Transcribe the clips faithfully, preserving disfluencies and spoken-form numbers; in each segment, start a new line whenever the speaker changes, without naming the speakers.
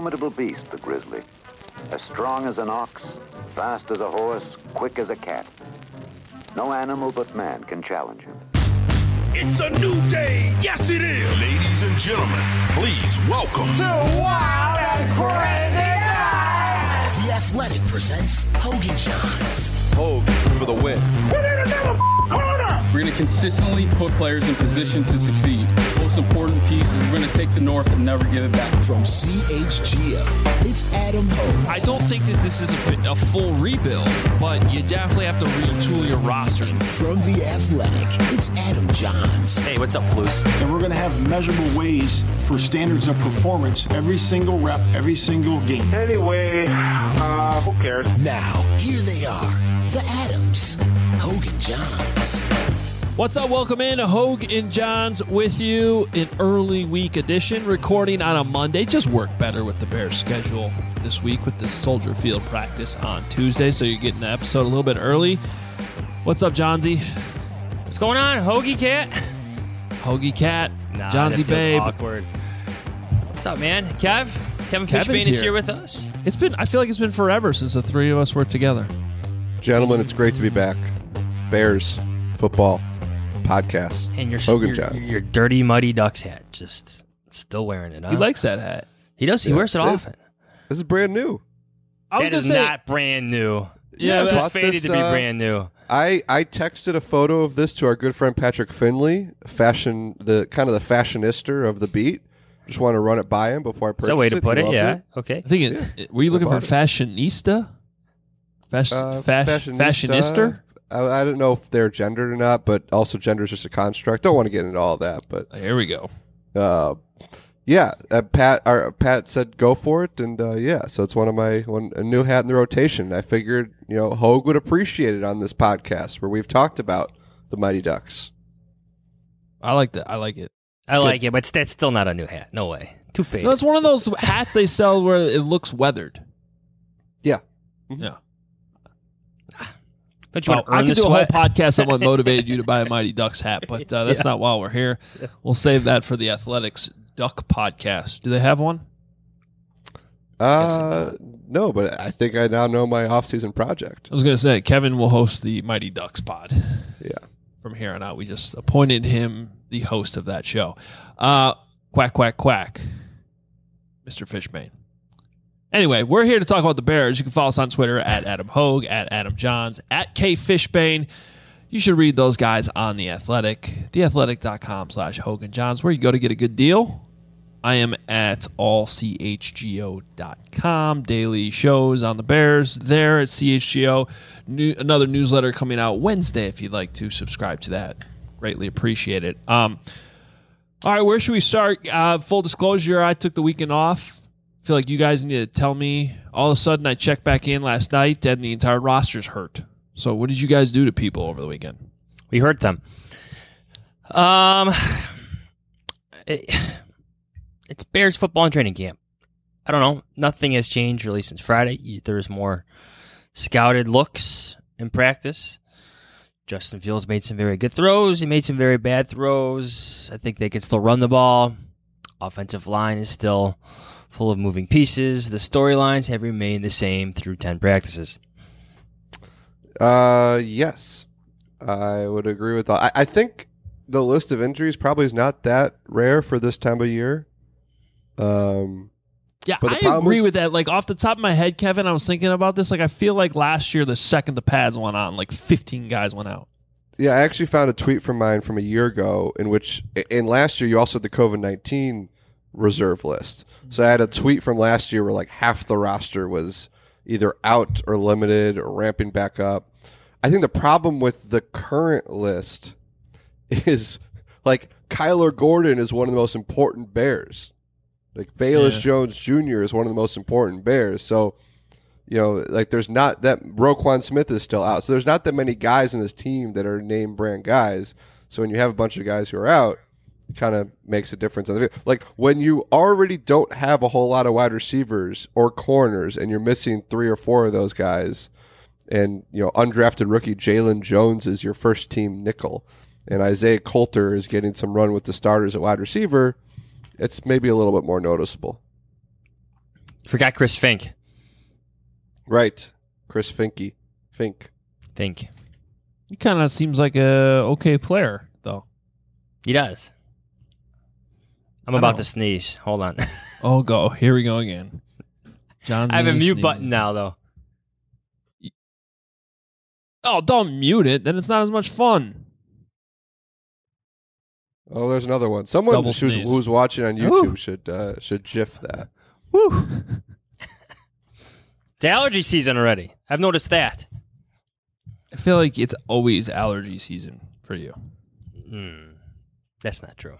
formidable beast, the grizzly. As strong as an ox, fast as a horse, quick as a cat. No animal but man can challenge him.
It's a new day, yes it is!
Ladies and gentlemen, please welcome
to Wild and Crazy Night!
The Athletic presents Hogan Johns.
Hogan for the win.
Put in another corner!
We're going to consistently put players in position to succeed. Most important piece is we're going to take the North and never give it back.
From C H G O, it's Adam Hogue.
I don't think that this is a, a full rebuild, but you definitely have to retool your roster.
And from The Athletic, it's Adam Johns.
Hey, what's up, Flus?
And we're going to have measurable ways for standards of performance every single rep, every single game.
Anyway, uh, who cares?
Now, here they are, the Adams, Hogan Johns.
What's up? Welcome in. Hogue and Johns with you. An early week edition, recording on a Monday. Just work better with the Bears schedule this week with the Soldier Field practice on Tuesday, so you're getting the episode a little bit early. What's up, Johnsy?
What's going on, Hoagie Cat?
Hoagie Cat,
nah,
Johnsy Babe.
Awkward. What's up, man? Kev? Kevin
Kevin's
Fishbane is
here.
here with us.
It's been. I feel like it's been forever since the three of us were together.
Gentlemen, it's great to be back. Bears football podcast.
And your
Hogan
your,
Johns.
your dirty, muddy Ducks hat, just still wearing it. Huh?
He likes that hat.
He does. He
Yeah,
wears it
this-
often.
This is brand new.
I was
That
gonna
is
say,
not brand new.
Yeah,
it's
but-
fated to be
this, uh,
brand new.
I, I texted a photo of this to our good friend Patrick Finley, fashion the kind of the fashionista of the beat. Just want to run it by him before I purchase it.
That's a way to
He
put it.
loved
Yeah. Okay.
I think it,
Yeah.
it- were you looking
I
for
bought it.
fashionista? Fashion,
Uh,
fash,
fashionista.
fashionista?
I, I don't know if they're gendered or not, but also gender is just a construct. Don't want to get into all that, but
Here we go.
uh, yeah, uh, Pat. Our, Pat said go for it, and uh, yeah, so it's one of my one a new hat in the rotation. I figured you know Hogue would appreciate it on this podcast where we've talked about the Mighty Ducks.
I like that. I like it.
I like it, but that's still not a new hat. No way. Too faded.
No, it's one of those hats they sell where it looks weathered.
Yeah.
Yeah.
Don't you
Well,
want to earn
I could
the
do
sweat?
a whole podcast on what motivated you to buy a Mighty Ducks hat, but uh, that's
Yeah.
not why we're here. We'll save that for the Athletics Duck podcast. Do they have one?
Uh, no, but I think I now know my off-season project.
I was going to say, Kevin will host the Mighty Ducks pod.
Yeah.
From here on out, we just appointed him the host of that show. Uh, quack, quack, quack. Mister Fishbane. Anyway, we're here to talk about the Bears. You can follow us on Twitter at Adam Hogue, at Adam Johns, at K Fishbane. You should read those guys on The Athletic, theathletic.com slash Hogan Johns, where you go to get a good deal. I am at all c h g o dot com. Daily shows on the Bears there at C H G O. New, another newsletter coming out Wednesday if you'd like to subscribe to that. Greatly appreciate it. Um, all right, where should we start? Uh, full disclosure, I took the weekend off. I feel like you guys need to tell me. All of a sudden, I checked back in last night, and the entire roster's hurt. So what did you guys do to people over the weekend?
We hurt them. Um, it, it's Bears football and training camp. I don't know. Nothing has changed really since Friday. There's more scouted looks in practice. Justin Fields made some very good throws. He made some very bad throws. I think they can still run the ball. Offensive line is still full of moving pieces. The storylines have remained the same through ten practices.
Uh, yes, I would agree with that. I, I think the list of injuries probably is not that rare for this time of year. Um,
Yeah,
But the
I
problem
agree
is-
with that. Like, off the top of my head, Kevin, I was thinking about this. Like, I feel like last year, the second the pads went on, like fifteen guys went out.
yeah, I actually found a tweet from mine from a year ago in which, in last year, you also had the COVID nineteen reserve list. So I had a tweet from last year where like half the roster was either out or limited or ramping back up. I think the problem with the current list is like Kyler Gordon is one of the most important Bears. Like Velus
Yeah.
Jones Junior is one of the most important Bears. So, you know, like there's not that Roquan Smith is still out. So there's not that many guys in this team that are name brand guys. So when you have a bunch of guys who are out, it kind of makes a difference on the field. Like when you already don't have a whole lot of wide receivers or corners and you're missing three or four of those guys, and you know, undrafted rookie Jalen Jones is your first team nickel, and Isaiah Coulter is getting some run with the starters at wide receiver, it's maybe a little bit more noticeable.
Forgot Chris Fink.
Right. Chris Finke. Fink.
Fink.
He kind of seems like a okay player, though.
He does. I'm
I
about
know.
to sneeze. Hold on.
Oh, go. Here we go again. John's
I have a
gonna
mute
sneeze.
button now, though.
Oh, don't mute it. Then it's not as much fun.
Oh, there's another one. Someone
Double
who's,
sneeze.
who's watching on YouTube
Ooh.
should uh, should gif that.
Woo. It's allergy season already. I've noticed that.
I feel like it's always allergy season for you.
Mm, that's not true.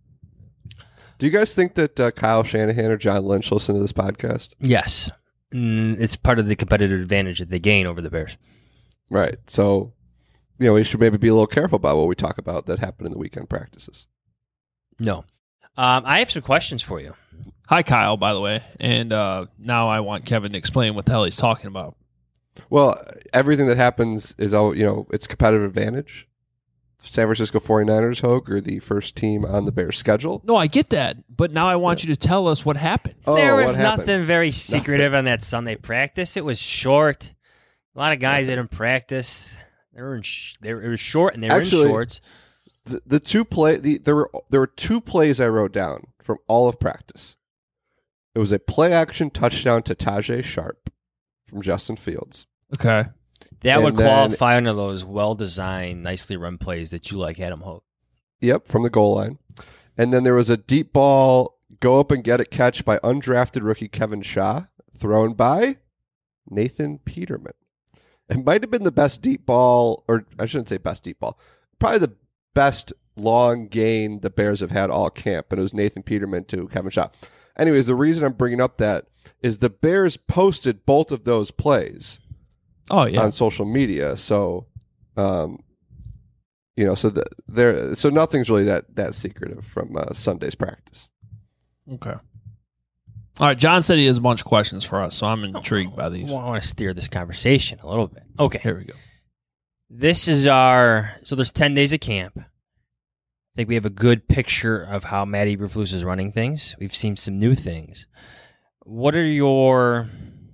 Do you guys think that uh, Kyle Shanahan or John Lynch listen to this podcast?
Yes. Mm, it's part of the competitive advantage that they gain over the Bears.
Right. So, you know, we should maybe be a little careful about what we talk about that happened in the weekend practices.
No. Um, I have some questions for you.
Hi, Kyle, by the way. And uh, now I want Kevin to explain what the hell he's talking about.
Well, everything that happens is, all you know, it's competitive advantage. San Francisco forty-niners, Hogue, are the first team on the Bears schedule.
No, I get that. But now I want yeah. you to tell us what happened.
Oh,
there was
what happened?
nothing very secretive on that Sunday practice. It was short. A lot of guys didn't practice. They were in sh- they were, it was short, and they were
Actually,
in shorts.
The, the two play the, there were there were two plays I wrote down from all of practice. It was a play action touchdown to Tajay Sharp from Justin Fields.
Okay.
That
and
would
then,
qualify under those well-designed, nicely run plays that you like, Adam Hogue.
Yep, from the goal line. And then there was a deep ball, go up and get it catch by undrafted rookie Kevin Shaw, thrown by Nathan Peterman. It might have been the best deep ball, or I shouldn't say best deep ball, probably the best long gain the Bears have had all camp, and it was Nathan Peterman to Kevin Shaw. Anyways, the reason I'm bringing up that is the Bears posted both of those plays.
Oh yeah,
on social media. So, um, you know, so the, there, so nothing's really that that secretive from uh, Sunday's practice.
Okay. All right. John said he has a bunch of questions for us, so I'm intrigued by these.
I want to steer this conversation a little bit. Okay,
here we go.
This is our so there's ten days of camp. I think we have a good picture of how Matt Eberflus is running things. We've seen some new things. What are your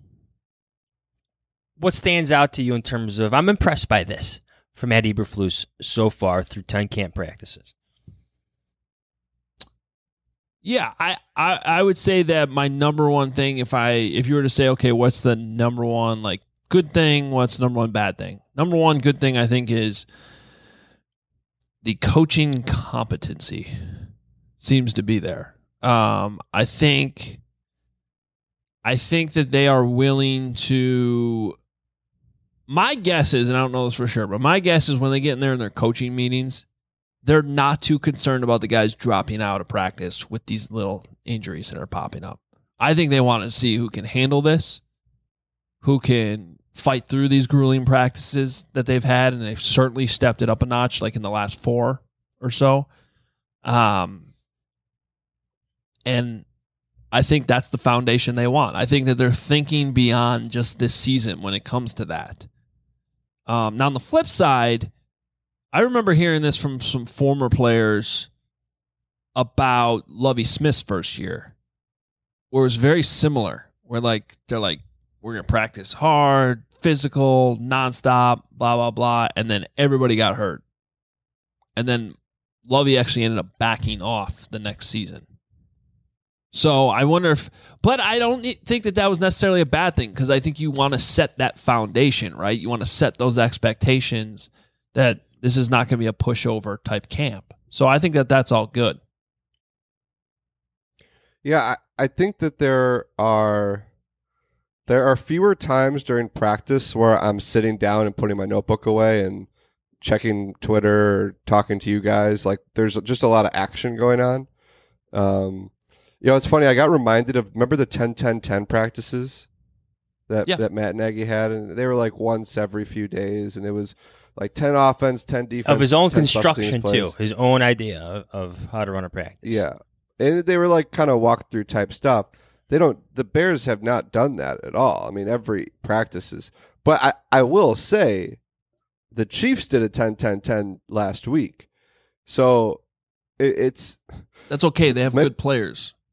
What stands out to you in terms of, I'm impressed by this from Matt Eberflus so far through ten camp practices?
Yeah, I, I, I would say that my number one thing, if I if you were to say, okay, what's the number one like good thing, what's the number one bad thing? Number one good thing I think is the coaching competency seems to be there. Um, I think I think that they are willing to. My guess is, and I don't know this for sure, but my guess is when they get in there in their coaching meetings, they're not too concerned about the guys dropping out of practice with these little injuries that are popping up. I think they want to see who can handle this, who can fight through these grueling practices that they've had, and they've certainly stepped it up a notch, like in the last four or so. Um, and I think that's the foundation they want. I think that they're thinking beyond just this season when it comes to that. Um, now, on the flip side, I remember hearing this from some former players about Lovie Smith's first year, where it was very similar, where like they're like, we're going to practice hard, physical, nonstop, blah, blah, blah, and then everybody got hurt. And then Lovie actually ended up backing off the next season. So I wonder if, but I don't think that that was necessarily a bad thing, because I think you want to set that foundation, right? You want to set those expectations that this is not going to be a pushover type camp. So I think that that's all good.
Yeah, I, I think that there are there are fewer times during practice where I'm sitting down and putting my notebook away and checking Twitter or talking to you guys. Like, there's just a lot of action going on. Um, you know, it's funny. I got reminded of, remember the ten ten ten practices that,
yeah.
that Matt Nagy had? And they were like once every few days, and it was like ten offense, ten defense.
Of his own
ten
construction,
plays.
too. His own idea of, of how to run a practice.
Yeah. And they were like kind of walkthrough type stuff. They don't, the Bears have not done that at all. I mean, every practice is, but I, I will say the Chiefs did a ten ten ten last week. So it, it's,
that's okay. They have
my,
good players.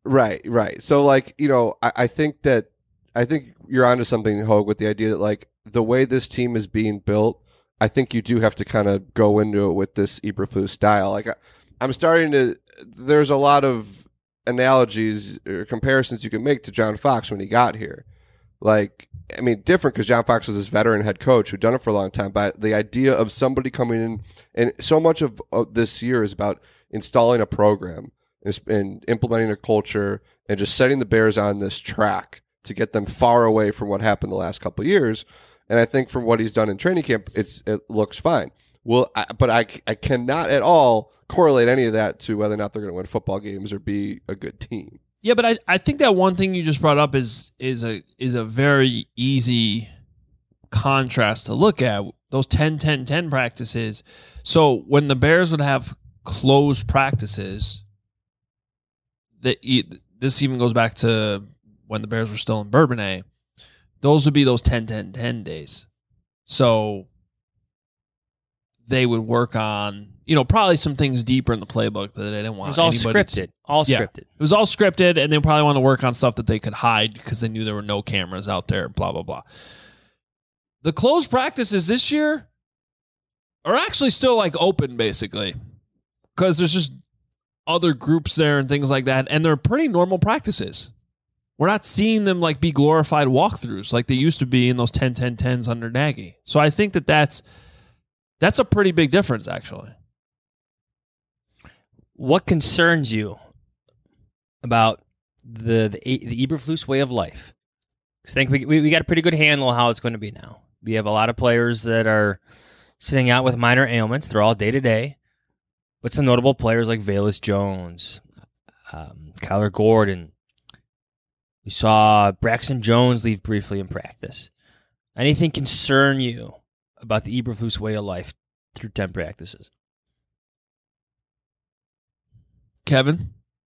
Right, right. So, like, you know, I, I think that I think you're onto something, Hogue, with the idea that, like, the way this team is being built, I think you do have to kind of go into it with this Eberflus style. Like, I, I'm starting to. There's a lot of analogies or comparisons you can make to John Fox when he got here. Like, I mean, different because John Fox was this veteran head coach who'd done it for a long time. But the idea of somebody coming in, and so much of, of this year is about installing a program and implementing a culture and just setting the Bears on this track to get them far away from what happened the last couple of years. And I think from what he's done in training camp, it's it looks fine. Well, I, but I, I cannot at all correlate any of that to whether or not they're going to win football games or be a good team.
Yeah, but I, I think that one thing you just brought up is is a is a very easy contrast to look at. Those ten ten ten practices. So when the Bears would have closed practices, that this even goes back to when the Bears were still in Bourbonnais, those would be those ten ten ten days. So they would work on, you know, probably some things deeper in the playbook that they didn't want.
It was all
anybody
scripted.
To,
all
yeah,
scripted. It
was all scripted, and they probably want to work on stuff that they could hide because they knew there were no cameras out there, blah, blah, blah. The closed practices this year are actually still, like, open, basically, because there's just other groups there and things like that, and they're pretty normal practices. We're not seeing them, like, be glorified walkthroughs like they used to be in those ten ten tens under Nagy. So I think that that's That's a pretty big difference, actually.
What concerns you about the the, the Eberflus way of life? Because I think we, we we got a pretty good handle on how it's going to be now. We have a lot of players that are sitting out with minor ailments. They're all day to day, but some notable players like Velus Jones, um, Kyler Gordon. We saw Braxton Jones leave briefly in practice. Anything concern you about the Eberflus way of life through ten practices?
Kevin?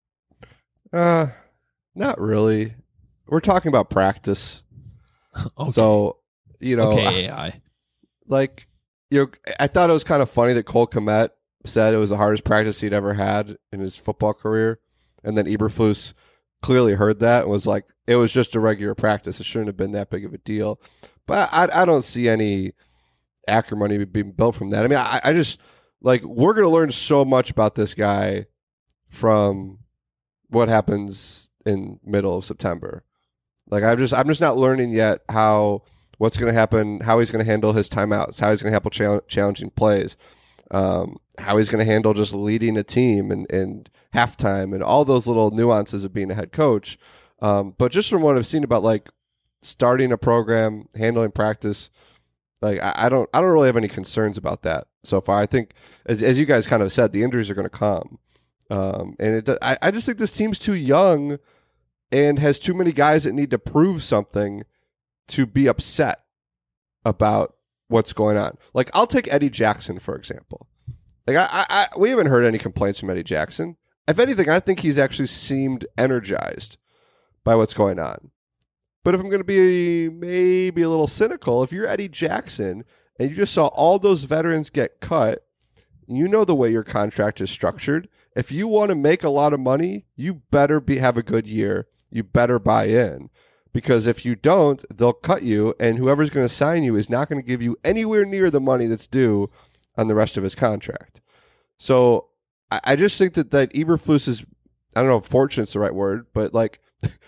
Uh, not really. We're talking about practice.
Okay.
So, you know,
okay, A I.
Like, you know, I thought it was kind of funny that Cole Kmet said it was the hardest practice he'd ever had in his football career. And then Eberflus clearly heard that and was like, it was just a regular practice. It shouldn't have been that big of a deal. But I, I don't see any acrimony being built from that. I mean, I, I just, like, we're going to learn so much about this guy from what happens in middle of September. Like, I'm just, I'm just not learning yet how, what's going to happen, how he's going to handle his timeouts, how he's going to handle chal- challenging plays, um, how he's going to handle just leading a team and, and halftime and all those little nuances of being a head coach. Um, but just from what I've seen about, like, starting a program, handling practice, like, I, I don't, I don't really have any concerns about that so far. I think, as as you guys kind of said, the injuries are going to come, um, and it, I, I just think this team's too young and has too many guys that need to prove something to be upset about what's going on. Like, I'll take Eddie Jackson, for example. Like, I, I, I we haven't heard any complaints from Eddie Jackson. If anything, I think he's actually seemed energized by what's going on. But if I'm going to be maybe a little cynical, if you're Eddie Jackson and you just saw all those veterans get cut, you know the way your contract is structured. If you want to make a lot of money, you better be have a good year. You better buy in. Because if you don't, they'll cut you, and whoever's going to sign you is not going to give you anywhere near the money that's due on the rest of his contract. So I, I just think that, that Eberflus is, I don't know if fortunate's the right word, but, like,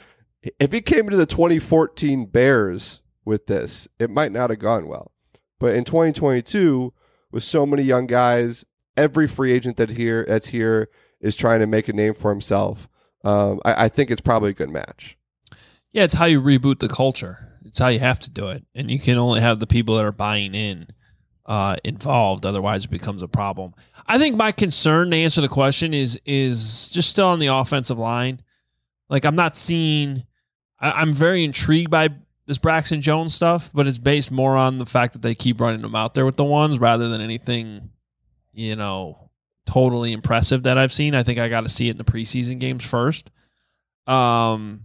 if he came into the twenty fourteen Bears with this, it might not have gone well. But in twenty twenty-two, with so many young guys, every free agent that here that's here is trying to make a name for himself. Um, I, I think it's probably a good match.
Yeah, it's how you reboot the culture. It's how you have to do it. And you can only have the people that are buying in uh, involved. Otherwise, it becomes a problem. I think my concern, to answer the question, is is just still on the offensive line. Like, I'm not seeing... I, I'm very intrigued by this Braxton Jones stuff, but it's based more on the fact that they keep running them out there with the ones rather than anything, you know, totally impressive that I've seen. I think I got to see it in the preseason games first. Um...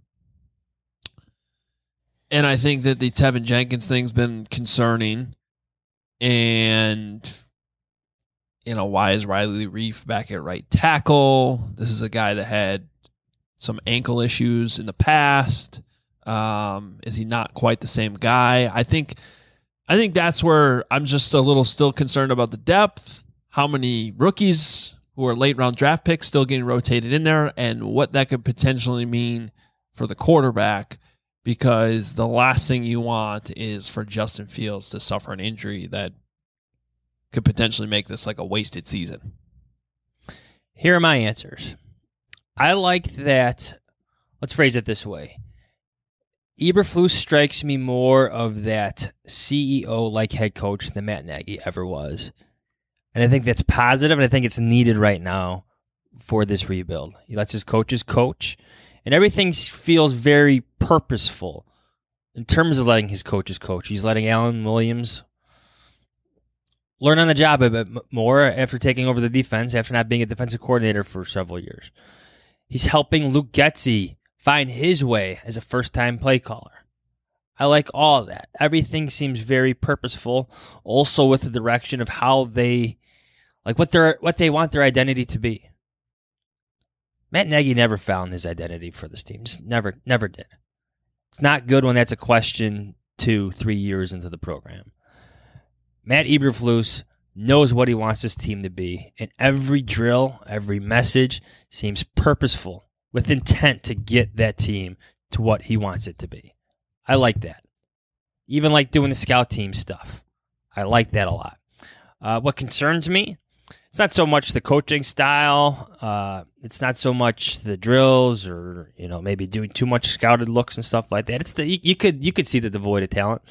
And I think that the Tevin Jenkins thing's been concerning. And, you know, why is Riley Reif back at right tackle? This is a guy that had some ankle issues in the past? Um, is he not quite the same guy? I think I think that's where I'm just a little still concerned about the depth, how many rookies who are late round draft picks still getting rotated in there, and what that could potentially mean for the quarterback, because the last thing you want is for Justin Fields to suffer an injury that could potentially make this like a wasted season.
Here are my answers. I like that. Let's phrase it this way. Eberflus strikes me more of that C E O-like head coach than Matt Nagy ever was. And I think that's positive, and I think it's needed right now for this rebuild. He lets his coaches coach, and everything feels very purposeful in terms of letting his coaches coach. He's letting Alan Williams learn on the job a bit more after taking over the defense, after not being a defensive coordinator for several years. He's helping Luke Getsy find his way as a first-time play caller. I like all of that. Everything seems very purposeful, also with the direction of how they, like what their what they want their identity to be. Matt Nagy never found his identity for this team. Just never, never did. It's not good when that's a question two, three years into the program. Matt Eberflus knows what he wants this team to be, and every drill, every message seems purposeful, with intent to get that team to what he wants it to be. I like that. Even like doing the scout team stuff. I like that a lot. Uh, what concerns me, it's not so much the coaching style. Uh, it's not so much the drills or, you know, maybe doing too much scouted looks and stuff like that. It's the you, you could you could see the devoid of talent.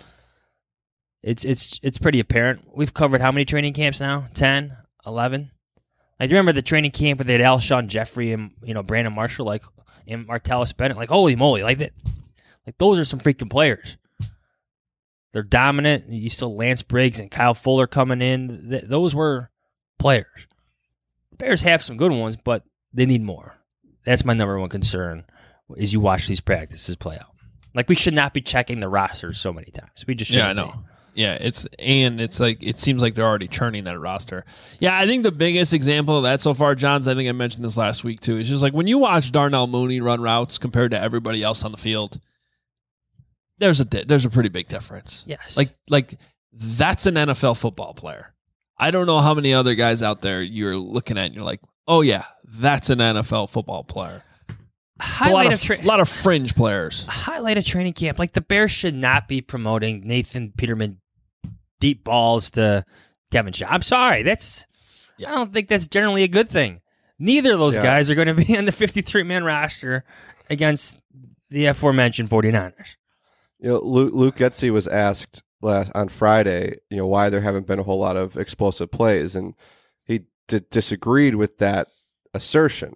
It's it's it's pretty apparent. We've covered how many training camps now? ten, eleven Like, do you remember the training camp where they had Alshon Jeffrey and, you know, Brandon Marshall, like, and Martellus Bennett? Like, holy moly, like that. Like, those are some freaking players. They're dominant. You still Lance Briggs and Kyle Fuller coming in. Th- those were players. The Bears have some good ones, but they need more. That's my number one concern as you watch these practices play out. Like, we should not be checking the rosters so many times. We just shouldn't.
Yeah, I know.
Be.
Yeah, it's and it's like it seems like they're already churning that roster. Yeah, I think the biggest example of that so far, Johns, I think I mentioned this last week too, is just like when you watch Darnell Mooney run routes compared to everybody else on the field, there's a there's a pretty big difference.
Yes.
Like like that's an N F L football player. I don't know how many other guys out there you're looking at and you're like, oh yeah, that's an N F L football player. It's a lot of, tra- lot of fringe players.
Highlight of training camp. Like, the Bears should not be promoting Nathan Peterman deep balls to Kevin Shaw. I'm sorry. That's yeah. I don't think that's generally a good thing. Neither of those yeah. guys are going to be on the fifty-three man roster against the aforementioned 49ers.
You know, Luke, Luke Getsy was asked last on Friday, you know, why there haven't been a whole lot of explosive plays, and he d- disagreed with that assertion.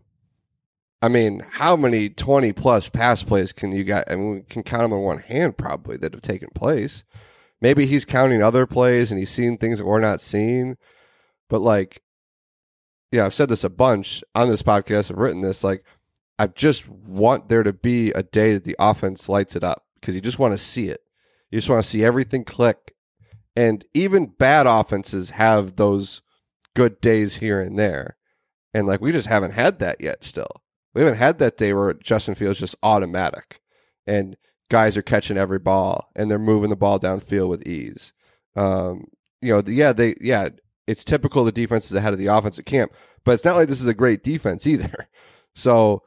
I mean, how many twenty-plus pass plays can you got? I mean, we can count them on one hand probably that have taken place. Maybe he's counting other plays and he's seeing things that we're not seeing. But, like, yeah, I've said this a bunch on this podcast. I've written this. Like, I just want there to be a day that the offense lights it up because you just want to see it. You just want to see everything click. And even bad offenses have those good days here and there. And, like, we just haven't had that yet still. We haven't had that day where Justin Fields just automatic and guys are catching every ball and they're moving the ball downfield with ease. Um, you know, yeah, they, yeah, it's typical the defense is ahead of the offense at camp, but it's not like this is a great defense either. So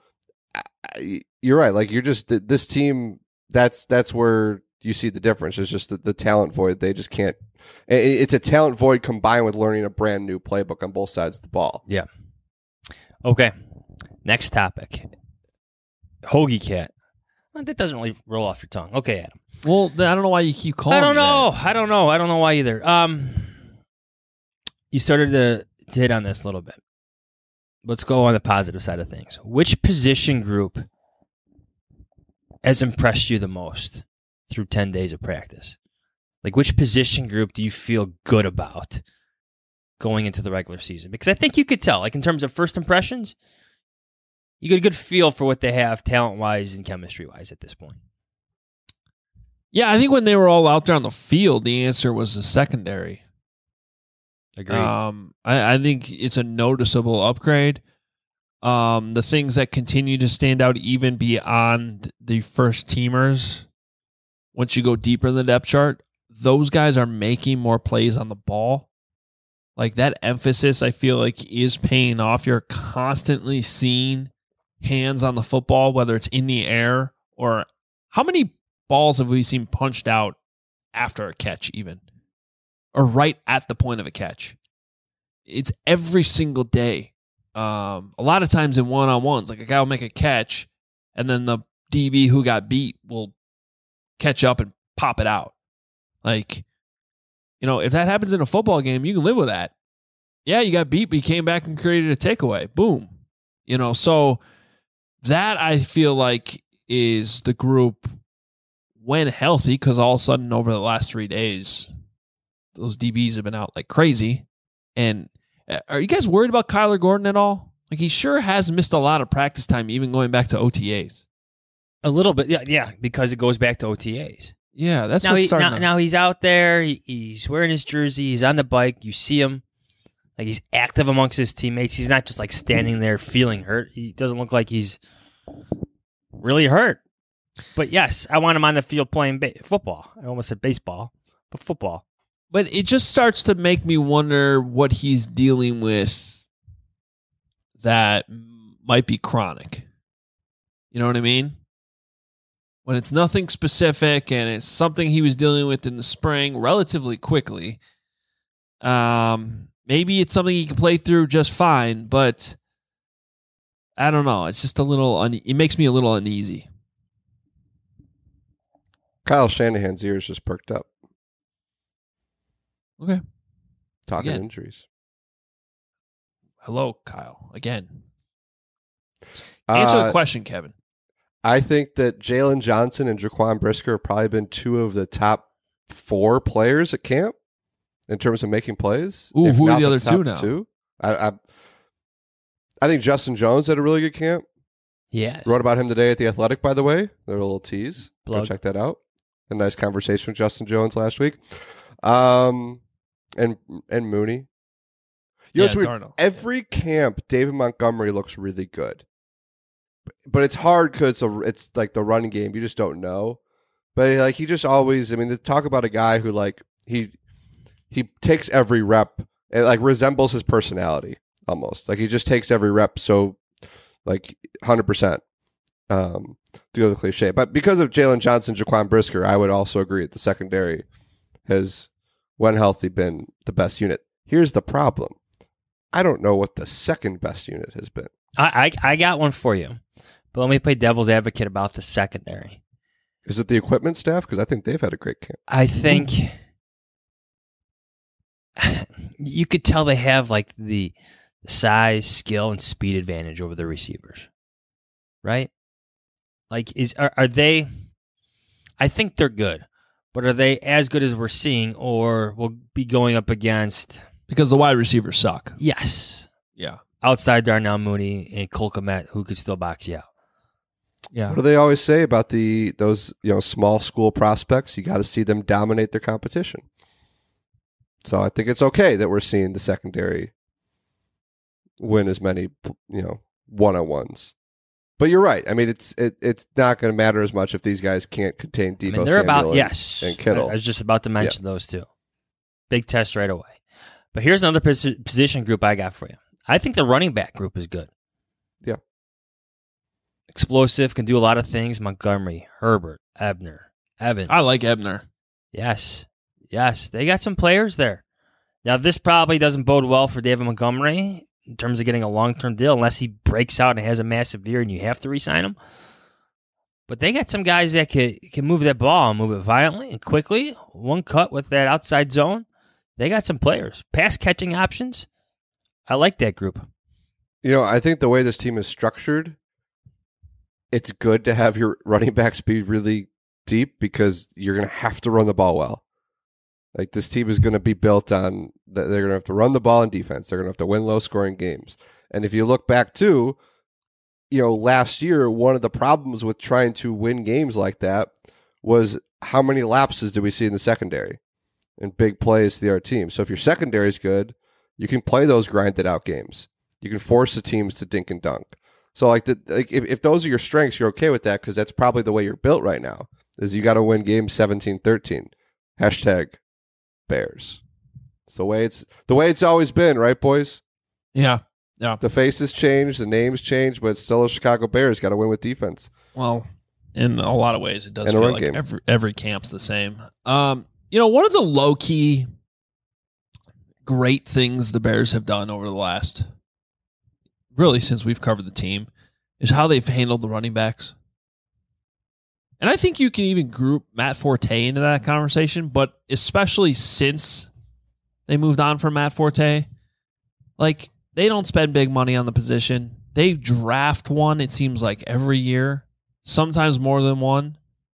I, you're right. Like, you're just, this team, that's, that's where you see the difference. It's just the, the talent void. They just can't, it's a talent void combined with learning a brand new playbook on both sides of the ball.
Yeah. Okay. Next topic. Hoagie Cat. Well, that doesn't really roll off your tongue. Okay, Adam.
Well, I don't know why you keep calling
I don't
me
know.
that.
I don't know. I don't know why either. Um, you started to, to hit on this a little bit. Let's go on the positive side of things. Which position group has impressed you the most through ten days of practice? Like, which position group do you feel good about going into the regular season? Because I think you could tell, like, in terms of first impressions, you get a good feel for what they have talent-wise and chemistry-wise at this point.
Yeah, I think when they were all out there on the field, the answer was the secondary.
Agreed.
Um, I, I think it's a noticeable upgrade. Um, the things that continue to stand out even beyond the first teamers, once you go deeper in the depth chart, those guys are making more plays on the ball. Like that emphasis, I feel like, is paying off. You're constantly seeing hands on the football, whether it's in the air or how many balls have we seen punched out after a catch even, or right at the point of a catch. It's every single day. Um, a lot of times in one-on-ones, like a guy will make a catch and then the D B who got beat will catch up and pop it out. Like, you know, if that happens in a football game, you can live with that. Yeah, you got beat, but you came back and created a takeaway. Boom. You know, so that I feel like is the group when healthy, because all of a sudden over the last three days, those D Bs have been out like crazy. And are you guys worried about Kyler Gordon at all? Like, he sure has missed a lot of practice time, even going back to O T As.
A little bit, yeah, yeah, because it goes back to O T As.
Yeah, that's
now
what's
he,
starting
now,
to...
now he's out there. He, he's wearing his jersey. He's on the bike. You see him. Like, he's active amongst his teammates. He's not just, like, standing there feeling hurt. He doesn't look like he's really hurt. But, yes, I want him on the field playing ba- football. I almost said baseball, but football.
But it just starts to make me wonder what he's dealing with that might be chronic. You know what I mean? When it's nothing specific and it's something he was dealing with in the spring relatively quickly, um, maybe it's something he can play through just fine, but I don't know. It's just a little, une- it makes me a little uneasy.
Kyle Shanahan's ears just perked up.
Okay.
Talking
Again.
injuries.
Hello, Kyle. Again. Answer
Uh,
the question, Kevin.
I think that Jalen Johnson and Jaquan Brisker have probably been two of the top four players at camp in terms of making plays.
Ooh,
if
who are
not
the other
top
two now?
Two. I, I, I think Justin Jones had a really good camp.
Yeah.
Wrote about him today at The Athletic, by the way. They're a little tease. Go
Plug.
check that out. A nice conversation with Justin Jones last week. Um, and and Mooney. You know,
Yeah,
it's weird.
Darnold.
Every camp, David Montgomery looks really good. But it's hard because it's, it's like the running game. You just don't know. But like he just always, I mean, talk about a guy who like he he takes every rep. It like resembles his personality almost. Like he just takes every rep so like one hundred percent. Um, to go to the cliche. But because of Jalen Johnson, Jaquan Brisker, I would also agree that the secondary has, when healthy, been the best unit. Here's the problem. I don't know what the second best unit has been.
I, I I got one for you, but let me play devil's advocate about the secondary.
Is it the equipment staff? Because I think they've had a great camp.
I think you could tell they have like the size, skill, and speed advantage over the receivers, right? Like, is are, are they? I think they're good, but are they as good as we're seeing, or will be going up against?
Because the wide receivers suck.
Yes.
Yeah.
Outside Darnell Mooney and Cole Kmet, who could still box you out.
Yeah.
What do they always say about the those you know small school prospects? You got to see them dominate their competition. So I think it's okay that we're seeing the secondary win as many you know one on ones. But you're right. I mean, it's it, it's not going to matter as much if these guys can't contain Deebo
I mean, they're
Samuel
about
and,
yes,
and Kittle.
I was just about to mention yeah. those two. Big test right away. But here's another pos- position group I got for you. I think the running back group is good.
Yeah.
Explosive, can do a lot of things. Montgomery, Herbert, Ebner, Evans.
I like Ebner.
Yes. Yes. They got some players there. Now, this probably doesn't bode well for David Montgomery in terms of getting a long-term deal unless he breaks out and has a massive year and you have to re-sign him. But they got some guys that can, can move that ball and move it violently and quickly. One cut with that outside zone. They got some players. Pass catching options. I like that group.
You know, I think the way this team is structured, it's good to have your running backs be really deep because you're going to have to run the ball well. Like this team is going to be built on, they're going to have to run the ball in defense. They're going to have to win low scoring games. And if you look back too, you know, last year, one of the problems with trying to win games like that was how many lapses did we see in the secondary and big plays to the other team. So if your secondary is good, you can play those grinded out games. You can force the teams to dink and dunk. So like the like if, if those are your strengths, you're okay with that because that's probably the way you're built right now. Is you got to win games seventeen thirteen. Hashtag Bears. It's the way it's the way it's always been, right, boys?
Yeah. Yeah.
The faces change, the names change, but it's still a Chicago Bears. Got to win with defense.
Well, in a lot of ways, it does
And a
feel
run
like
game.
every every camp's the same. Um, you know, one of the low key great things the Bears have done over the last, really since we've covered the team, is how they've handled the running backs. And I think you can even group Matt Forte into that conversation, but especially since they moved on from Matt Forte, like they don't spend big money on the position. They draft one, it seems like, every year, sometimes more than one.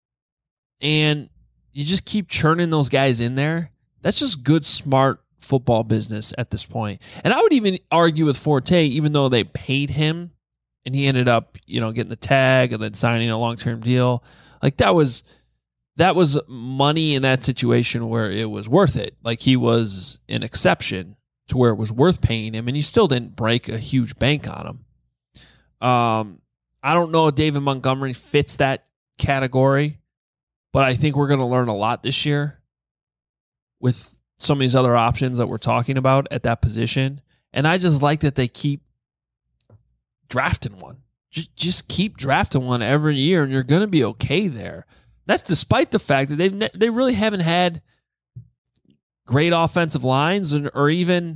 And you just keep churning those guys in there. That's just good, smart football business at this point. And I would even argue with Forte, even though they paid him and he ended up, you know, getting the tag and then signing a long-term deal. Like that was that was money in that situation where it was worth it. Like he was an exception to where it was worth paying him, and you still didn't break a huge bank on him. Um, I don't know if David Montgomery fits that category, but I think we're going to learn a lot this year with some of these other options that we're talking about at that position. And I just like that they keep drafting one. Just, just keep drafting one every year, and you're going to be okay there. That's despite the fact that they've ne- they really haven't had great offensive lines, or, or even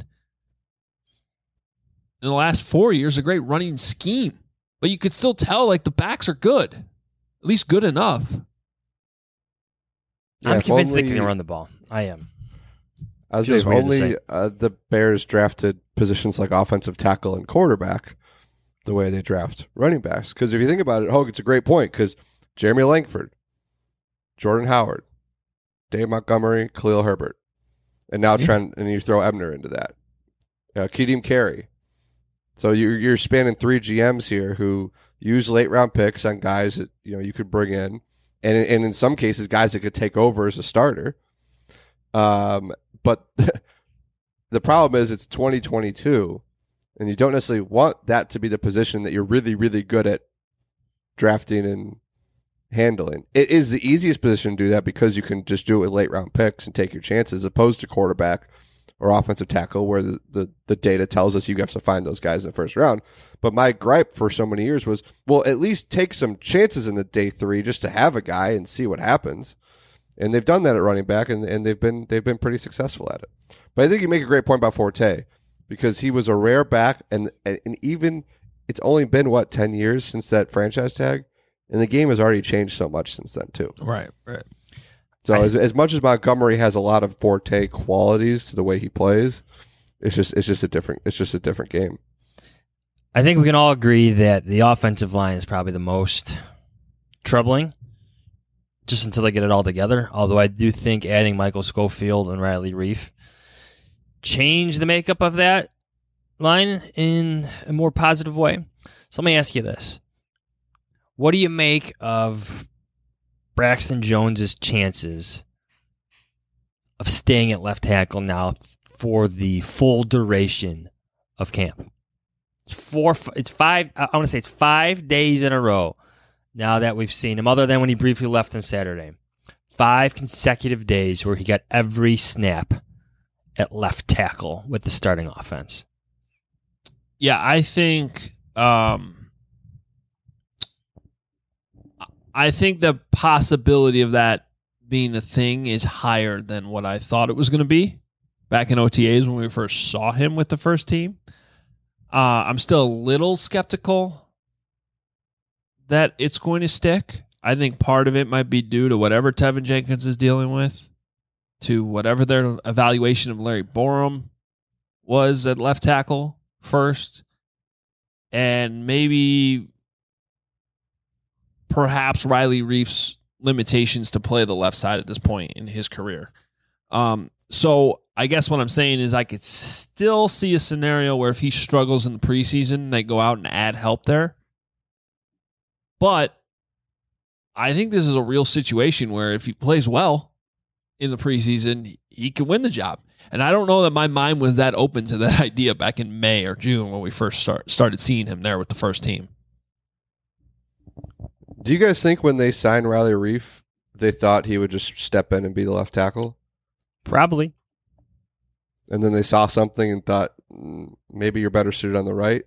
in the last four years a great running scheme. But you could still tell like the backs are good, at least good enough.
Yeah,
I'm
if
convinced
only-
they can run the ball. I am.
I was
Feels
saying,
weird to
only
say.
uh, the Bears drafted positions like offensive tackle and quarterback the way they draft running backs. Because if you think about it, Hogue, it's a great point because Jeremy Langford, Jordan Howard, Dave Montgomery, Khalil Herbert, and now
Yeah.
Trent, and you throw Ebner into that. Uh, Keadim Carey. So you're you're spanning three G Ms here who use late round picks on guys that you know you could bring in, and and in some cases guys that could take over as a starter. Um, but the problem is it's twenty twenty-two, and you don't necessarily want that to be the position that you're really really good at drafting and handling. It is the easiest position to do that because you can just do it with late round picks and take your chances, opposed to quarterback or offensive tackle, where the, the, the data tells us you have to find those guys in the first round. But my gripe for so many years was, well, at least take some chances in the day three just to have a guy and see what happens. And they've done that at running back, and, and they've been they've been pretty successful at it. But I think you make a great point about Forte, because he was a rare back, and and even it's only been, what, ten years since that franchise tag? And the game has already changed so much since then, too.
Right, right.
So as as much as Montgomery has a lot of Forte qualities to the way he plays, it's just it's just a different it's just a different game.
I think we can all agree that the offensive line is probably the most troubling, just until they get it all together. Although I do think adding Michael Schofield and Riley Reif change the makeup of that line in a more positive way. So let me ask you this. What do you make of Braxton Jones's chances of staying at left tackle now for the full duration of camp? It's four. It's five. I want to say it's five days in a row now that we've seen him, other than when he briefly left on Saturday. Five consecutive days where he got every snap at left tackle with the starting offense.
Yeah, I think um, I think the possibility of that being a thing is higher than what I thought it was going to be back in O T As when we first saw him with the first team. Uh, I'm still a little skeptical that it's going to stick. I think part of it might be due to whatever Tevin Jenkins is dealing with, to whatever their evaluation of Larry Borum was at left tackle first, and maybe perhaps Riley Reif's limitations to play the left side at this point in his career. Um, so I guess what I'm saying is I could still see a scenario where if he struggles in the preseason, they go out and add help there. But I think this is a real situation where if he plays well in the preseason, he can win the job. And I don't know that my mind was that open to that idea back in May or June when we first start, started seeing him there with the first team.
Do you guys think when they signed Riley Reif, they thought he would just step in and be the left tackle?
Probably.
And then they saw something and thought, mm, maybe you're better suited on the right?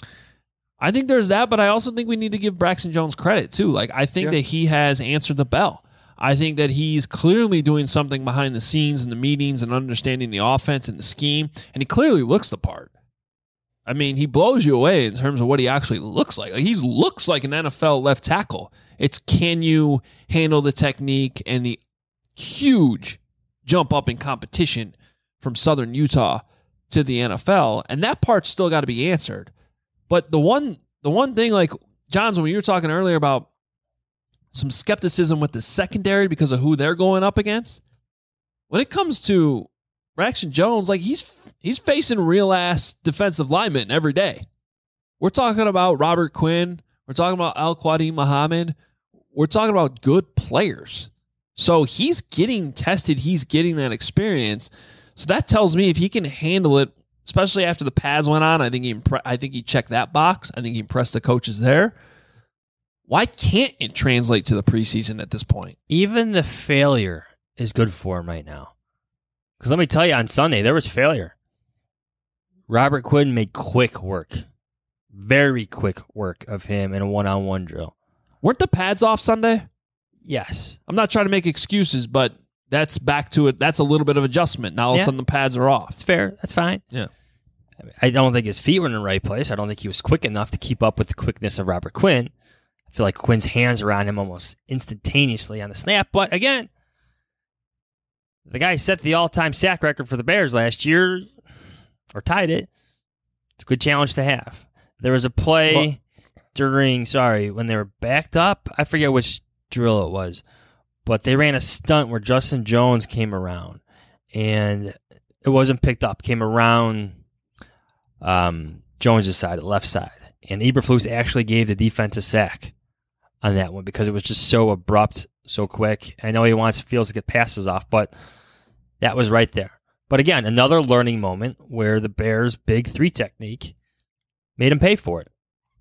I think there's that, but I also think we need to give Braxton Jones credit, too. Like, I think yeah. that he has answered the bell. I think that he's clearly doing something behind the scenes in the meetings and understanding the offense and the scheme, and he clearly looks the part. I mean, he blows you away in terms of what he actually looks like. Like he looks like an N F L left tackle. It's can you handle the technique and the huge jump up in competition from Southern Utah to the N F L, and that part's still got to be answered. But the one the one thing, like, Johns, when you were talking earlier about some skepticism with the secondary because of who they're going up against, when it comes to Braxton Jones, like, he's he's facing real-ass defensive linemen every day. We're talking about Robert Quinn. We're talking about Al-Quadin Muhammad. We're talking about good players. So he's getting tested. He's getting that experience. So that tells me if he can handle it, especially after the pads went on, I think he impre- I think he checked that box. I think he impressed the coaches there. Why can't it translate to the preseason at this point?
Even the failure is good for him right now. Because let me tell you, on Sunday, there was failure. Robert Quinn made quick work, very quick work of him in a one-on-one drill.
Weren't the pads off Sunday?
Yes.
I'm not trying to make excuses, but that's back to it. That's a little bit of adjustment. Now all yeah. of a sudden the pads are off.
It's fair. That's fine.
Yeah.
I don't think his feet were in the right place. I don't think he was quick enough to keep up with the quickness of Robert Quinn. I feel like Quinn's hands are on him almost instantaneously on the snap. But again, the guy set the all-time sack record for the Bears last year, or tied it. It's a good challenge to have. There was a play well, during, sorry, when they were backed up. I forget which drill it was, but they ran a stunt where Justin Jones came around, and it wasn't picked up. Came around um, Jones' side, the left side, and Eberflus actually gave the defense a sack on that one because it was just so abrupt, so quick. I know he wants feels to get passes off, but that was right there. But again, another learning moment where the Bears' big three technique made him pay for it.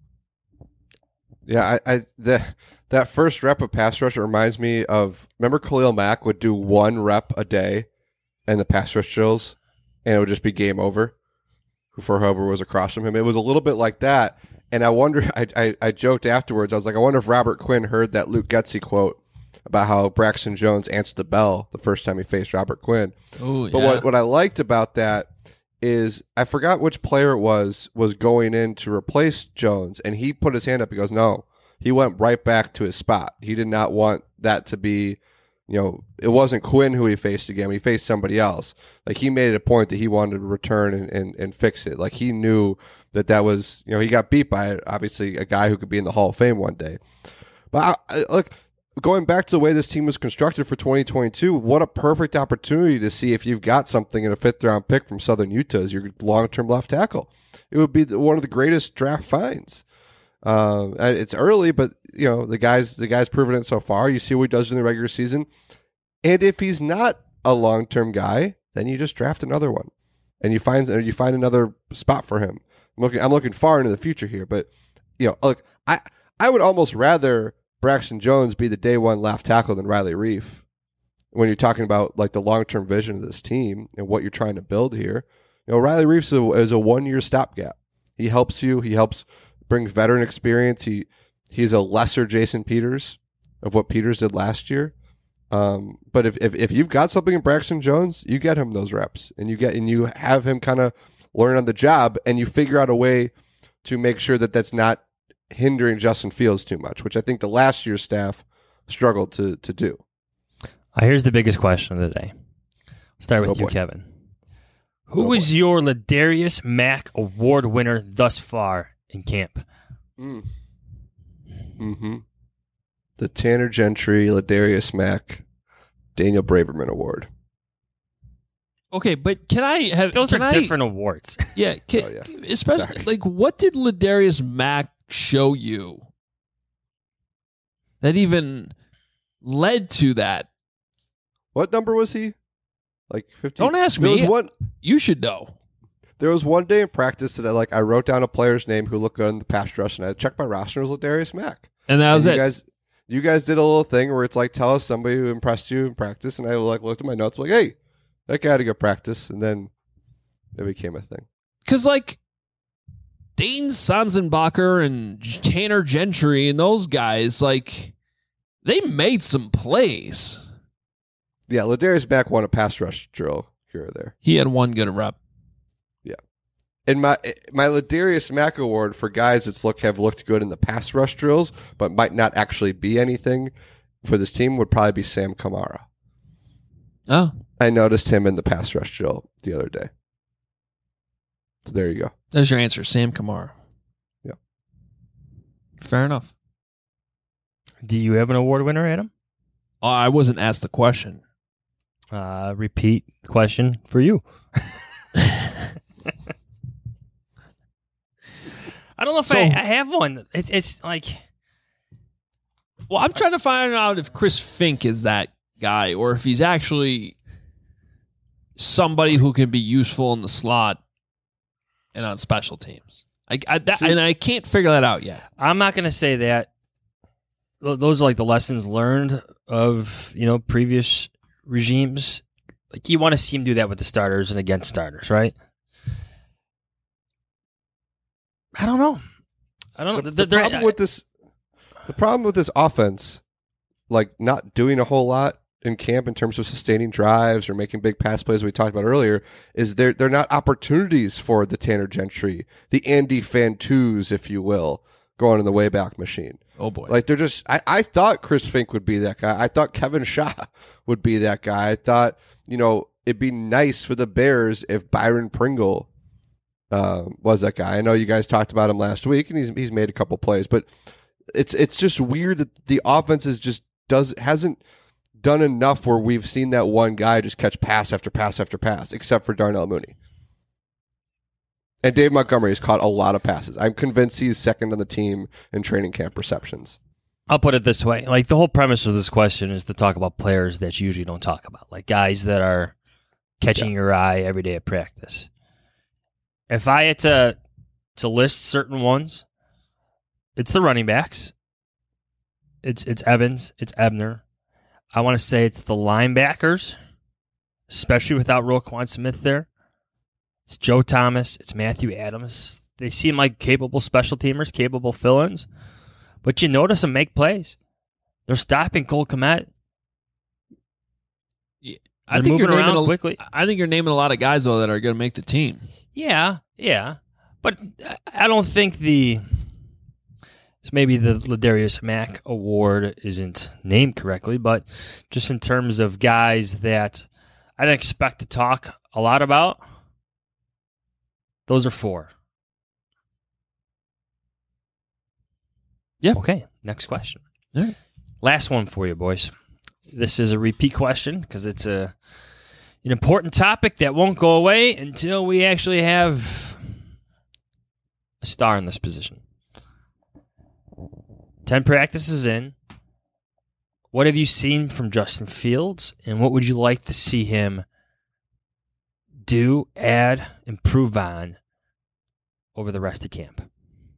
Yeah, I, I the that first rep of pass rush reminds me of, remember Khalil Mack would do one rep a day and the pass rush drills, and it would just be game over for whoever was across from him. It was a little bit like that. And I wonder, I, I, I joked afterwards, I was like, I wonder if Robert Quinn heard that Luke Getsy quote about how Braxton Jones answered the bell the first time he faced Robert Quinn.
Ooh,
but
yeah.
what, what I liked about that is, I forgot which player it was, was going in to replace Jones, and he put his hand up. He goes, no. He went right back to his spot. He did not want that to be, you know, it wasn't Quinn who he faced again. He faced somebody else. Like, he made it a point that he wanted to return and, and, and fix it. Like, he knew that that was, you know, he got beat by, obviously, a guy who could be in the Hall of Fame one day. But, I, I, look, going back to the way this team was constructed for twenty twenty-two, what a perfect opportunity to see if you've got something in a fifth-round pick from Southern Utah as your long-term left tackle. It would be one of the greatest draft finds. Uh, it's early, but you know the guy's the guy's proven it so far. You see what he does in the regular season, and if he's not a long-term guy, then you just draft another one, and you find you find another spot for him. I'm looking, I'm looking far into the future here, but you know, look, I I would almost rather Braxton Jones be the day one left tackle than Riley Reif when you're talking about like the long-term vision of this team and what you're trying to build here. You know, Riley Reif is a, is a one-year stopgap. He helps you. He helps. Brings veteran experience. He he's a lesser Jason Peters of what Peters did last year. Um, but if, if if you've got something in Braxton Jones, you get him those reps, and you get and you have him kind of learn on the job, and you figure out a way to make sure that that's not hindering Justin Fields too much, which I think the last year's staff struggled to to do.
Uh, here's the biggest question of the day. Start with
oh,
you,
boy.
Kevin. Who
oh,
was
boy.
your Ladarius Mack Award winner thus far in camp?
Mm. Mm-hmm. The Tanner Gentry, Ladarius Mack, Daniel Braverman Award.
Okay, but can I have
those
can
are
I,
different awards?
Yeah, can,
oh, yeah.
especially
Sorry.
like what did Ladarius Mack show you that even led to that?
What number was he? Like fifty.
Don't ask
there
me.
Was one,
you should know.
There was one day in practice that I like I wrote down a player's name who looked good in the pass rush, and I checked my roster. It was Ladarius Mack,
and that was
and
it.
You guys, you guys did a little thing where it's like, tell us somebody who impressed you in practice, and I like looked at my notes, like, hey, that guy had a good practice, and then it became a thing.
Because like Dane Sanzenbacher and Tanner Gentry and those guys, like they made some plays.
Yeah, Ladarius Mack won a pass rush drill here or there.
He had one good rep.
And my my Ladarius Mack award for guys that's look have looked good in the pass rush drills, but might not actually be anything for this team would probably be Sam Kamara.
Oh,
I noticed him in the pass rush drill the other day. So there you go.
There's your answer, Sam Kamara.
Yeah,
fair enough.
Do you have an award winner, Adam?
Oh, I wasn't asked the question.
Uh, repeat the question for you. I don't know if so, I, I have one. It's, it's like,
well, I'm trying to find out if Chris Fink is that guy or if he's actually somebody who can be useful in the slot and on special teams. I, I that, See, and I can't figure that out yet.
I'm not going to say that. Those are like the lessons learned of, you know, previous regimes. Like you want to see him do that with the starters and against starters, right? I don't know. I don't know.
The, the problem with this, the problem with this offense, like not doing a whole lot in camp in terms of sustaining drives or making big pass plays we talked about earlier, is they're they're not opportunities for the Tanner Gentry, the Andy Fantus, if you will, going in the Wayback Machine.
Oh boy!
Like they're just. I, I thought Chris Fink would be that guy. I thought Kevin Shaw would be that guy. I thought you know it'd be nice for the Bears if Byron Pringle Uh, was that guy. I know you guys talked about him last week, and he's he's made a couple plays, but it's it's just weird that the offense is just does hasn't done enough where we've seen that one guy just catch pass after pass after pass, except for Darnell Mooney. And Dave Montgomery has caught a lot of passes. I'm convinced he's second on the team in training camp receptions.
I'll put it this way: like the whole premise of this question is to talk about players that you usually don't talk about, like guys that are catching yeah. your eye every day at practice. If I had to to list certain ones, it's the running backs. It's it's Evans. It's Ebner. I want to say it's the linebackers, especially without Roquan Smith there. It's Joe Thomas. It's Matthew Adams. They seem like capable special teamers, capable fill-ins. But you notice them make plays. They're stopping Cole Kmet.
Yeah, I think you're naming a, quickly. I think you're naming a lot of guys though that are going to make the team.
Yeah, yeah, but I don't think the maybe the Ladarius Mack award isn't named correctly, but just in terms of guys that I didn't expect to talk a lot about, those are four.
Yeah.
Okay. Next question.
All right.
Last one for you, boys. This is a repeat question because it's a an important topic that won't go away until we actually have a star in this position. Ten practices in. What have you seen from Justin Fields, and what would you like to see him do, add, improve on over the rest of camp?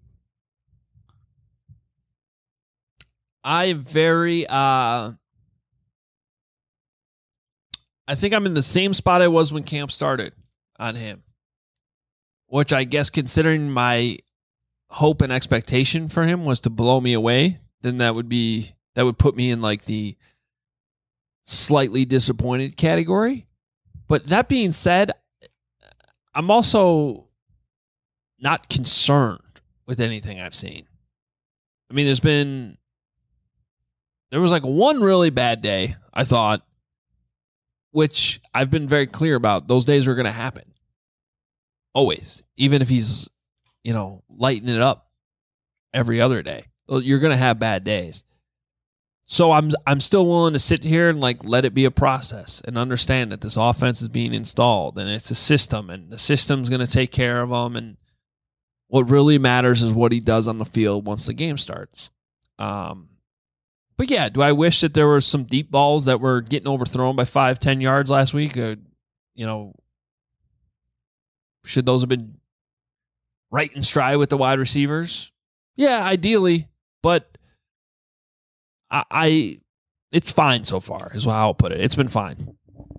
I'm very, uh, I think I'm in the same spot I was when camp started on him, which I guess considering my hope and expectation for him was to blow me away, then that would be, that would put me in like the slightly disappointed category. But that being said, I'm also not concerned with anything I've seen. I mean, there's been, there was like one really bad day, I thought, which I've been very clear about. Those days are going to happen. Always. Even if he's, you know, lighting it up every other day. You're going to have bad days. So I'm I'm still willing to sit here and like let it be a process and understand that this offense is being installed and it's a system and the system's going to take care of them. And what really matters is what he does on the field once the game starts. Um, But yeah, do I wish that there were some deep balls that were getting overthrown by five, ten yards last week? Uh, you know, should those have been right in stride with the wide receivers? Yeah, ideally, but I, I it's fine so far, is how I'll put it. It's been fine.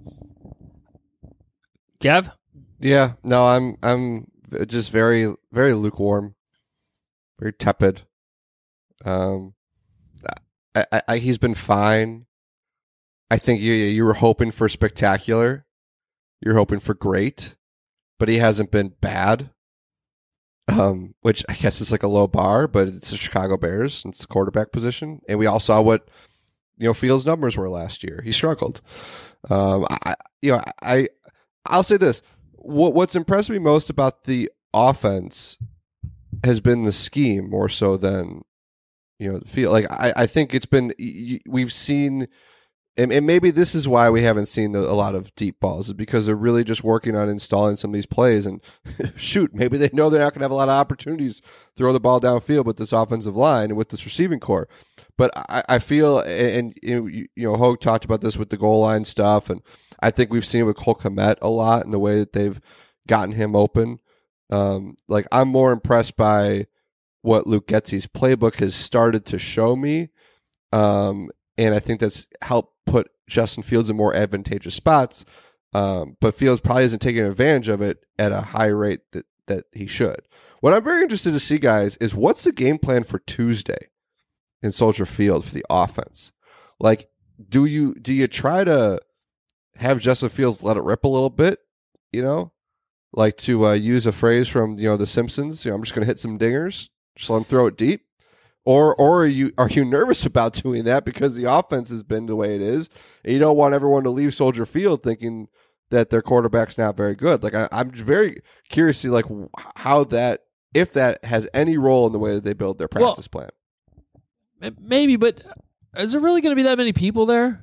Kev?
Yeah, no, I'm I'm just very very lukewarm, very tepid. Um, I, I, I he's been fine. I think you you were hoping for spectacular, you're hoping for great, but he hasn't been bad. Um, which I guess is like a low bar, but it's the Chicago Bears. It's the quarterback position, and we all saw what you know Fields' numbers were last year. He struggled. Um, I you know I I'll say this. What, what's impressed me most about the offense has been the scheme more so than, you know, feel like I, I think it's been, we've seen, and, and maybe this is why we haven't seen the, a lot of deep balls, is because they're really just working on installing some of these plays. And shoot, maybe they know they're not going to have a lot of opportunities to throw the ball downfield with this offensive line and with this receiving core. But I, I feel, and, and you know, Hogue talked about this with the goal line stuff, and I think we've seen it with Cole Kmet a lot in the way that they've gotten him open. Um, like, I'm more impressed by what Luke Getsy's playbook has started to show me, um, and I think that's helped put Justin Fields in more advantageous spots. Um, but Fields probably isn't taking advantage of it at a high rate that that he should. What I'm very interested to see, guys, is what's the game plan for Tuesday in Soldier Field for the offense? Like, do you do you try to have Justin Fields let it rip a little bit, you know, like to uh, use a phrase from, you know, The Simpsons, you know, I'm just going to hit some dingers, just let him throw it deep? Or or are you are you nervous about doing that because the offense has been the way it is, and you don't want everyone to leave Soldier Field thinking that their quarterback's not very good? Like, I, I'm very curious to see, like, how that, if that has any role in the way that they build their practice well,
plan. Maybe, but is there really going to be that many people there?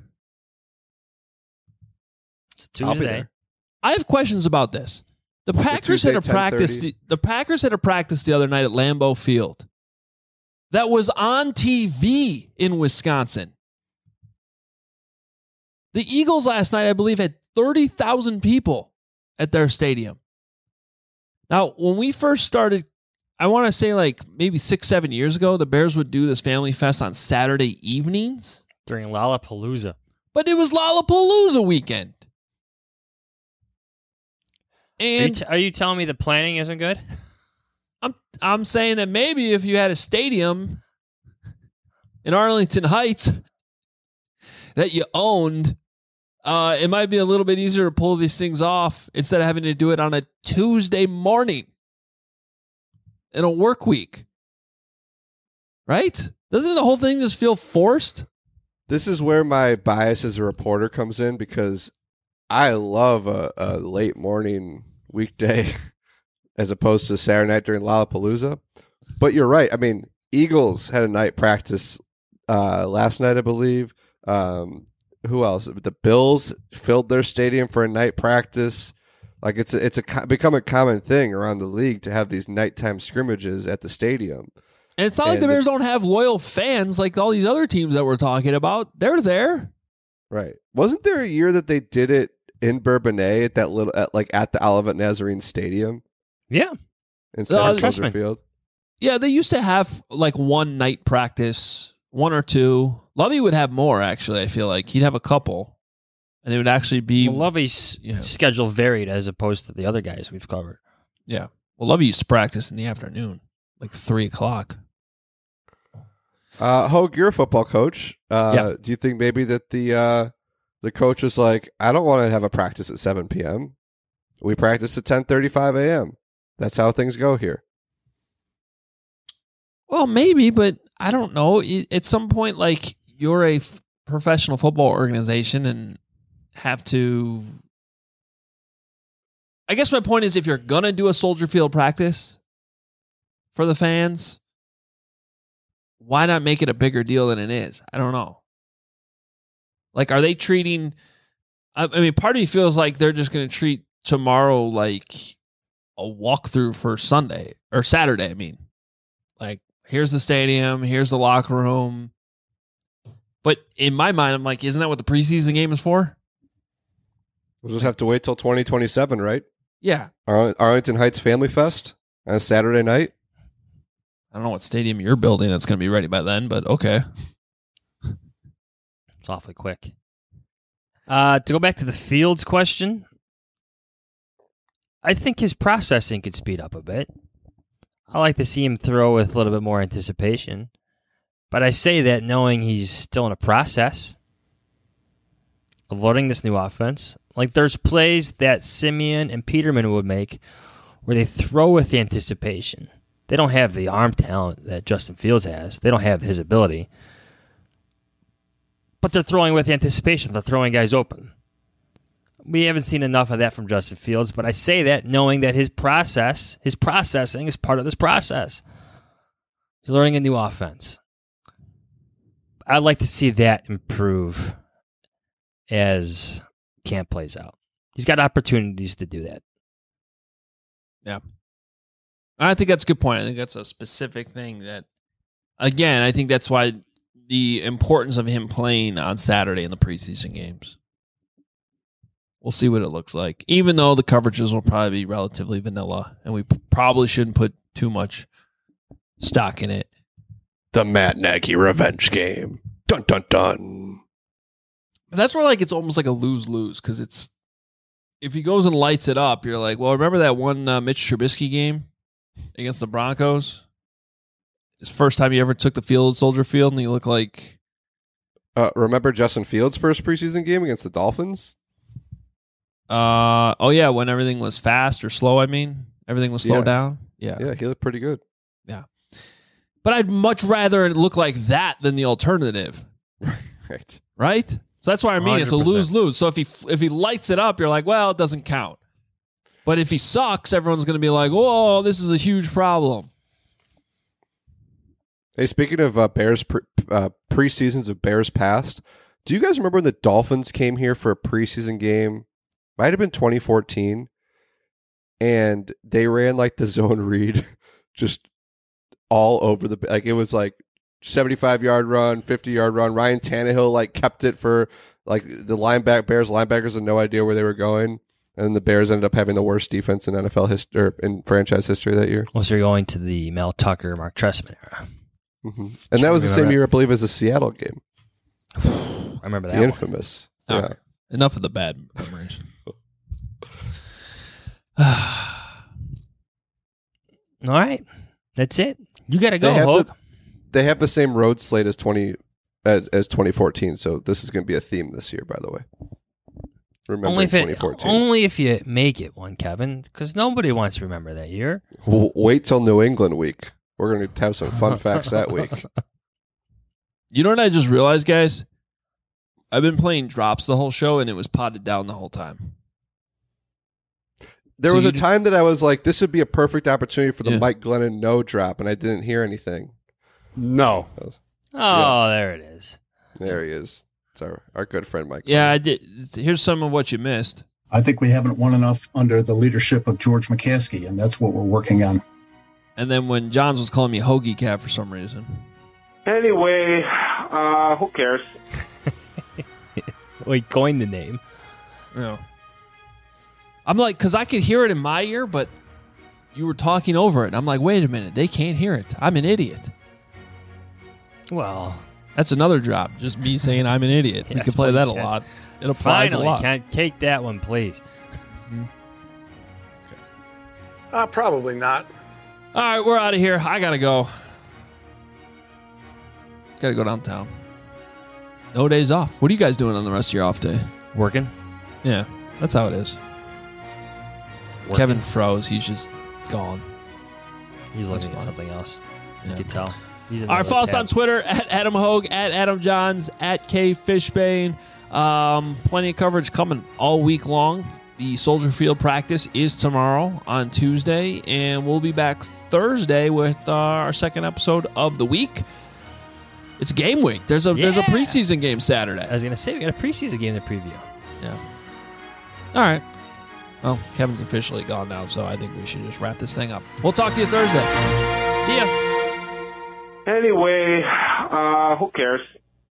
I'll be there.
I have questions about this. The Packers had a practice. The, the Packers had a practice the other night at Lambeau Field that was on T V in Wisconsin. The Eagles last night, I believe, had thirty thousand people at their stadium. Now, when we first started, I want to say like maybe six, seven years ago, the Bears would do this Family Fest on Saturday evenings
during Lollapalooza.
But it was Lollapalooza weekend. And
are you, t- are you telling me the planning isn't good?
I'm I'm saying that maybe if you had a stadium in Arlington Heights that you owned, uh, it might be a little bit easier to pull these things off instead of having to do it on a Tuesday morning in a work week. Right? Doesn't the whole thing just feel forced?
This is where my bias as a reporter comes in, because I love a, a late morning weekday as opposed to Saturday night during Lollapalooza. But you're right. I mean, Eagles had a night practice uh, last night, I believe. Um, who else? The Bills filled their stadium for a night practice. Like, it's a, it's a become a common thing around the league to have these nighttime scrimmages at the stadium.
And it's not and like the Bears the, don't have loyal fans like all these other teams that we're talking about. They're there.
Right. Wasn't there a year that they did it in Bourbonnais at that little, at, like at the Olivet Nazarene Stadium?
Yeah.
Instead uh, of Soldier Field?
Yeah, they used to have like one night practice, one or two. Lovey would have more, actually, I feel like. He'd have a couple. And it would actually be...
Well, Lovey's you know, schedule varied as opposed to the other guys we've covered.
Yeah. Well, Lovey used to practice in the afternoon, like three o'clock.
Uh, Hogue, you're a football coach. Uh,
yeah.
Do you think maybe that the uh, the coach was like, I don't want to have a practice at seven p.m. We practice at ten thirty-five a.m. That's how things go here.
Well, maybe, but I don't know. At some point, like, you're a f- professional football organization and have to... I guess my point is, if you're going to do a Soldier Field practice for the fans, why not make it a bigger deal than it is? I don't know. Like, are they treating... I, I mean, part of me feels like they're just going to treat tomorrow like a walkthrough for Sunday, or Saturday, I mean. Like, here's the stadium, here's the locker room. But in my mind, I'm like, isn't that what the preseason game is for?
We'll just have to wait till twenty twenty-seven, right?
Yeah.
Arl- Arlington Heights Family Fest on a Saturday night.
I don't know what stadium you're building that's going to be ready by then, but okay.
It's awfully quick. Uh, to go back to the Fields question, I think his processing could speed up a bit. I like to see him throw with a little bit more anticipation. But I say that knowing he's still in a process of learning this new offense. Like, there's plays that Simeon and Peterman would make where they throw with the anticipation. They don't have the arm talent that Justin Fields has. They don't have his ability. But they're throwing with anticipation. They're throwing guys open. We haven't seen enough of that from Justin Fields, but I say that knowing that his process, his processing is part of this process. He's learning a new offense. I'd like to see that improve as camp plays out. He's got opportunities to do that.
Yeah. I think that's a good point. I think that's a specific thing that, again, I think that's why the importance of him playing on Saturday in the preseason games. We'll see what it looks like. Even though the coverages will probably be relatively vanilla, and we p- probably shouldn't put too much stock in it.
The Matt Nagy revenge game. Dun, dun, dun.
But that's where like it's almost like a lose-lose, because it's if he goes and lights it up, you're like, well, remember that one uh, Mitch Trubisky game against the Broncos? His first time he ever took the field, Soldier Field, and he looked like...
Uh, remember Justin Fields' first preseason game against the Dolphins?
Uh oh yeah, when everything was fast or slow. I mean, everything was slowed
Yeah.
down. Yeah,
Yeah, he looked pretty good.
yeah. But I'd much rather it look like that than the alternative,
Right.
right? So that's why I mean it's a
one hundred percent.
lose lose. So if he if he lights it up, you're like, well, it doesn't count. But if he sucks, everyone's going to be like, whoa, this is a huge problem.
Hey, speaking of uh, Bears pre- uh, preseasons of Bears past, do you guys remember when the Dolphins came here for a preseason game? Might have been twenty fourteen, and they ran like the zone read just all over the like it was like seventy-five yard run, fifty yard run. Ryan Tannehill like kept it for like the linebacker Bears linebackers had no idea where they were going, and the Bears ended up having the worst defense in N F L history or in franchise history that year.
Once you're going to the Mel Tucker, Mark Trestman era.
Mm-hmm. And that was the same
that?
year, I believe, as the Seattle game.
I remember that
The
one.
infamous.
All
Yeah.
right. Enough of the bad memories.
All right. That's it. You got to go,
They have,
Hogue.
the, they have the same road slate as twenty as, as twenty fourteen, so this is going to be a theme this year, by the way. Remember
Only if,
twenty
it,
fourteen.
only if you make it one, Kevin, because nobody wants to remember that year.
W- wait till New England week. We're going to have some fun facts that week.
You know what I just realized, guys? I've been playing drops the whole show, and it was potted down the whole time.
There
So
was
you
a
d-
time that I was like, this would be a perfect opportunity for the
Yeah.
Mike Glennon no drop, and I didn't hear anything.
No.
Oh,
Yeah.
there it is.
There he is. It's our, our good friend, Mike.
Yeah, I did. Here's some of what you missed.
I think we haven't won enough under the leadership of George McCaskey, and that's what we're working on.
And then when Johns was calling me Hoagie Cat for some reason.
Anyway, uh, who cares?
Wait, coined the name.
Yeah. I'm like, because I could hear it in my ear, but you were talking over it. And I'm like, wait a minute. They can't hear it. I'm an idiot.
Well,
That's another drop. Just me saying I'm an idiot. We
Yes,
can play that a
please, Ken.
lot. It applies
finally,
a lot.
can't take that one, please.
Uh, probably not.
All right, we're out of here. I got to go. Got to go downtown. No days off. What are you guys doing on the rest of your off day?
Working?
Yeah, that's how it is.
Working.
Kevin froze. He's just gone.
He's
That's
looking at
fine.
something else.
Yeah.
You could tell. He's in
All right,
another
follow us
tab.
on Twitter at Adam Hogue, at Adam Johns, at K Fishbane. Um, plenty of coverage coming all week long. The Soldier Field practice is tomorrow on Tuesday, and we'll be back Thursday with uh, our second episode of the week. It's game week. There's a there's a
Yeah.
preseason game Saturday.
I was going to say, we got a preseason game to preview.
Yeah. All right. Well, Kevin's officially gone now, so I think we should just wrap this thing up. We'll talk to you Thursday. See ya.
Anyway, uh, who cares?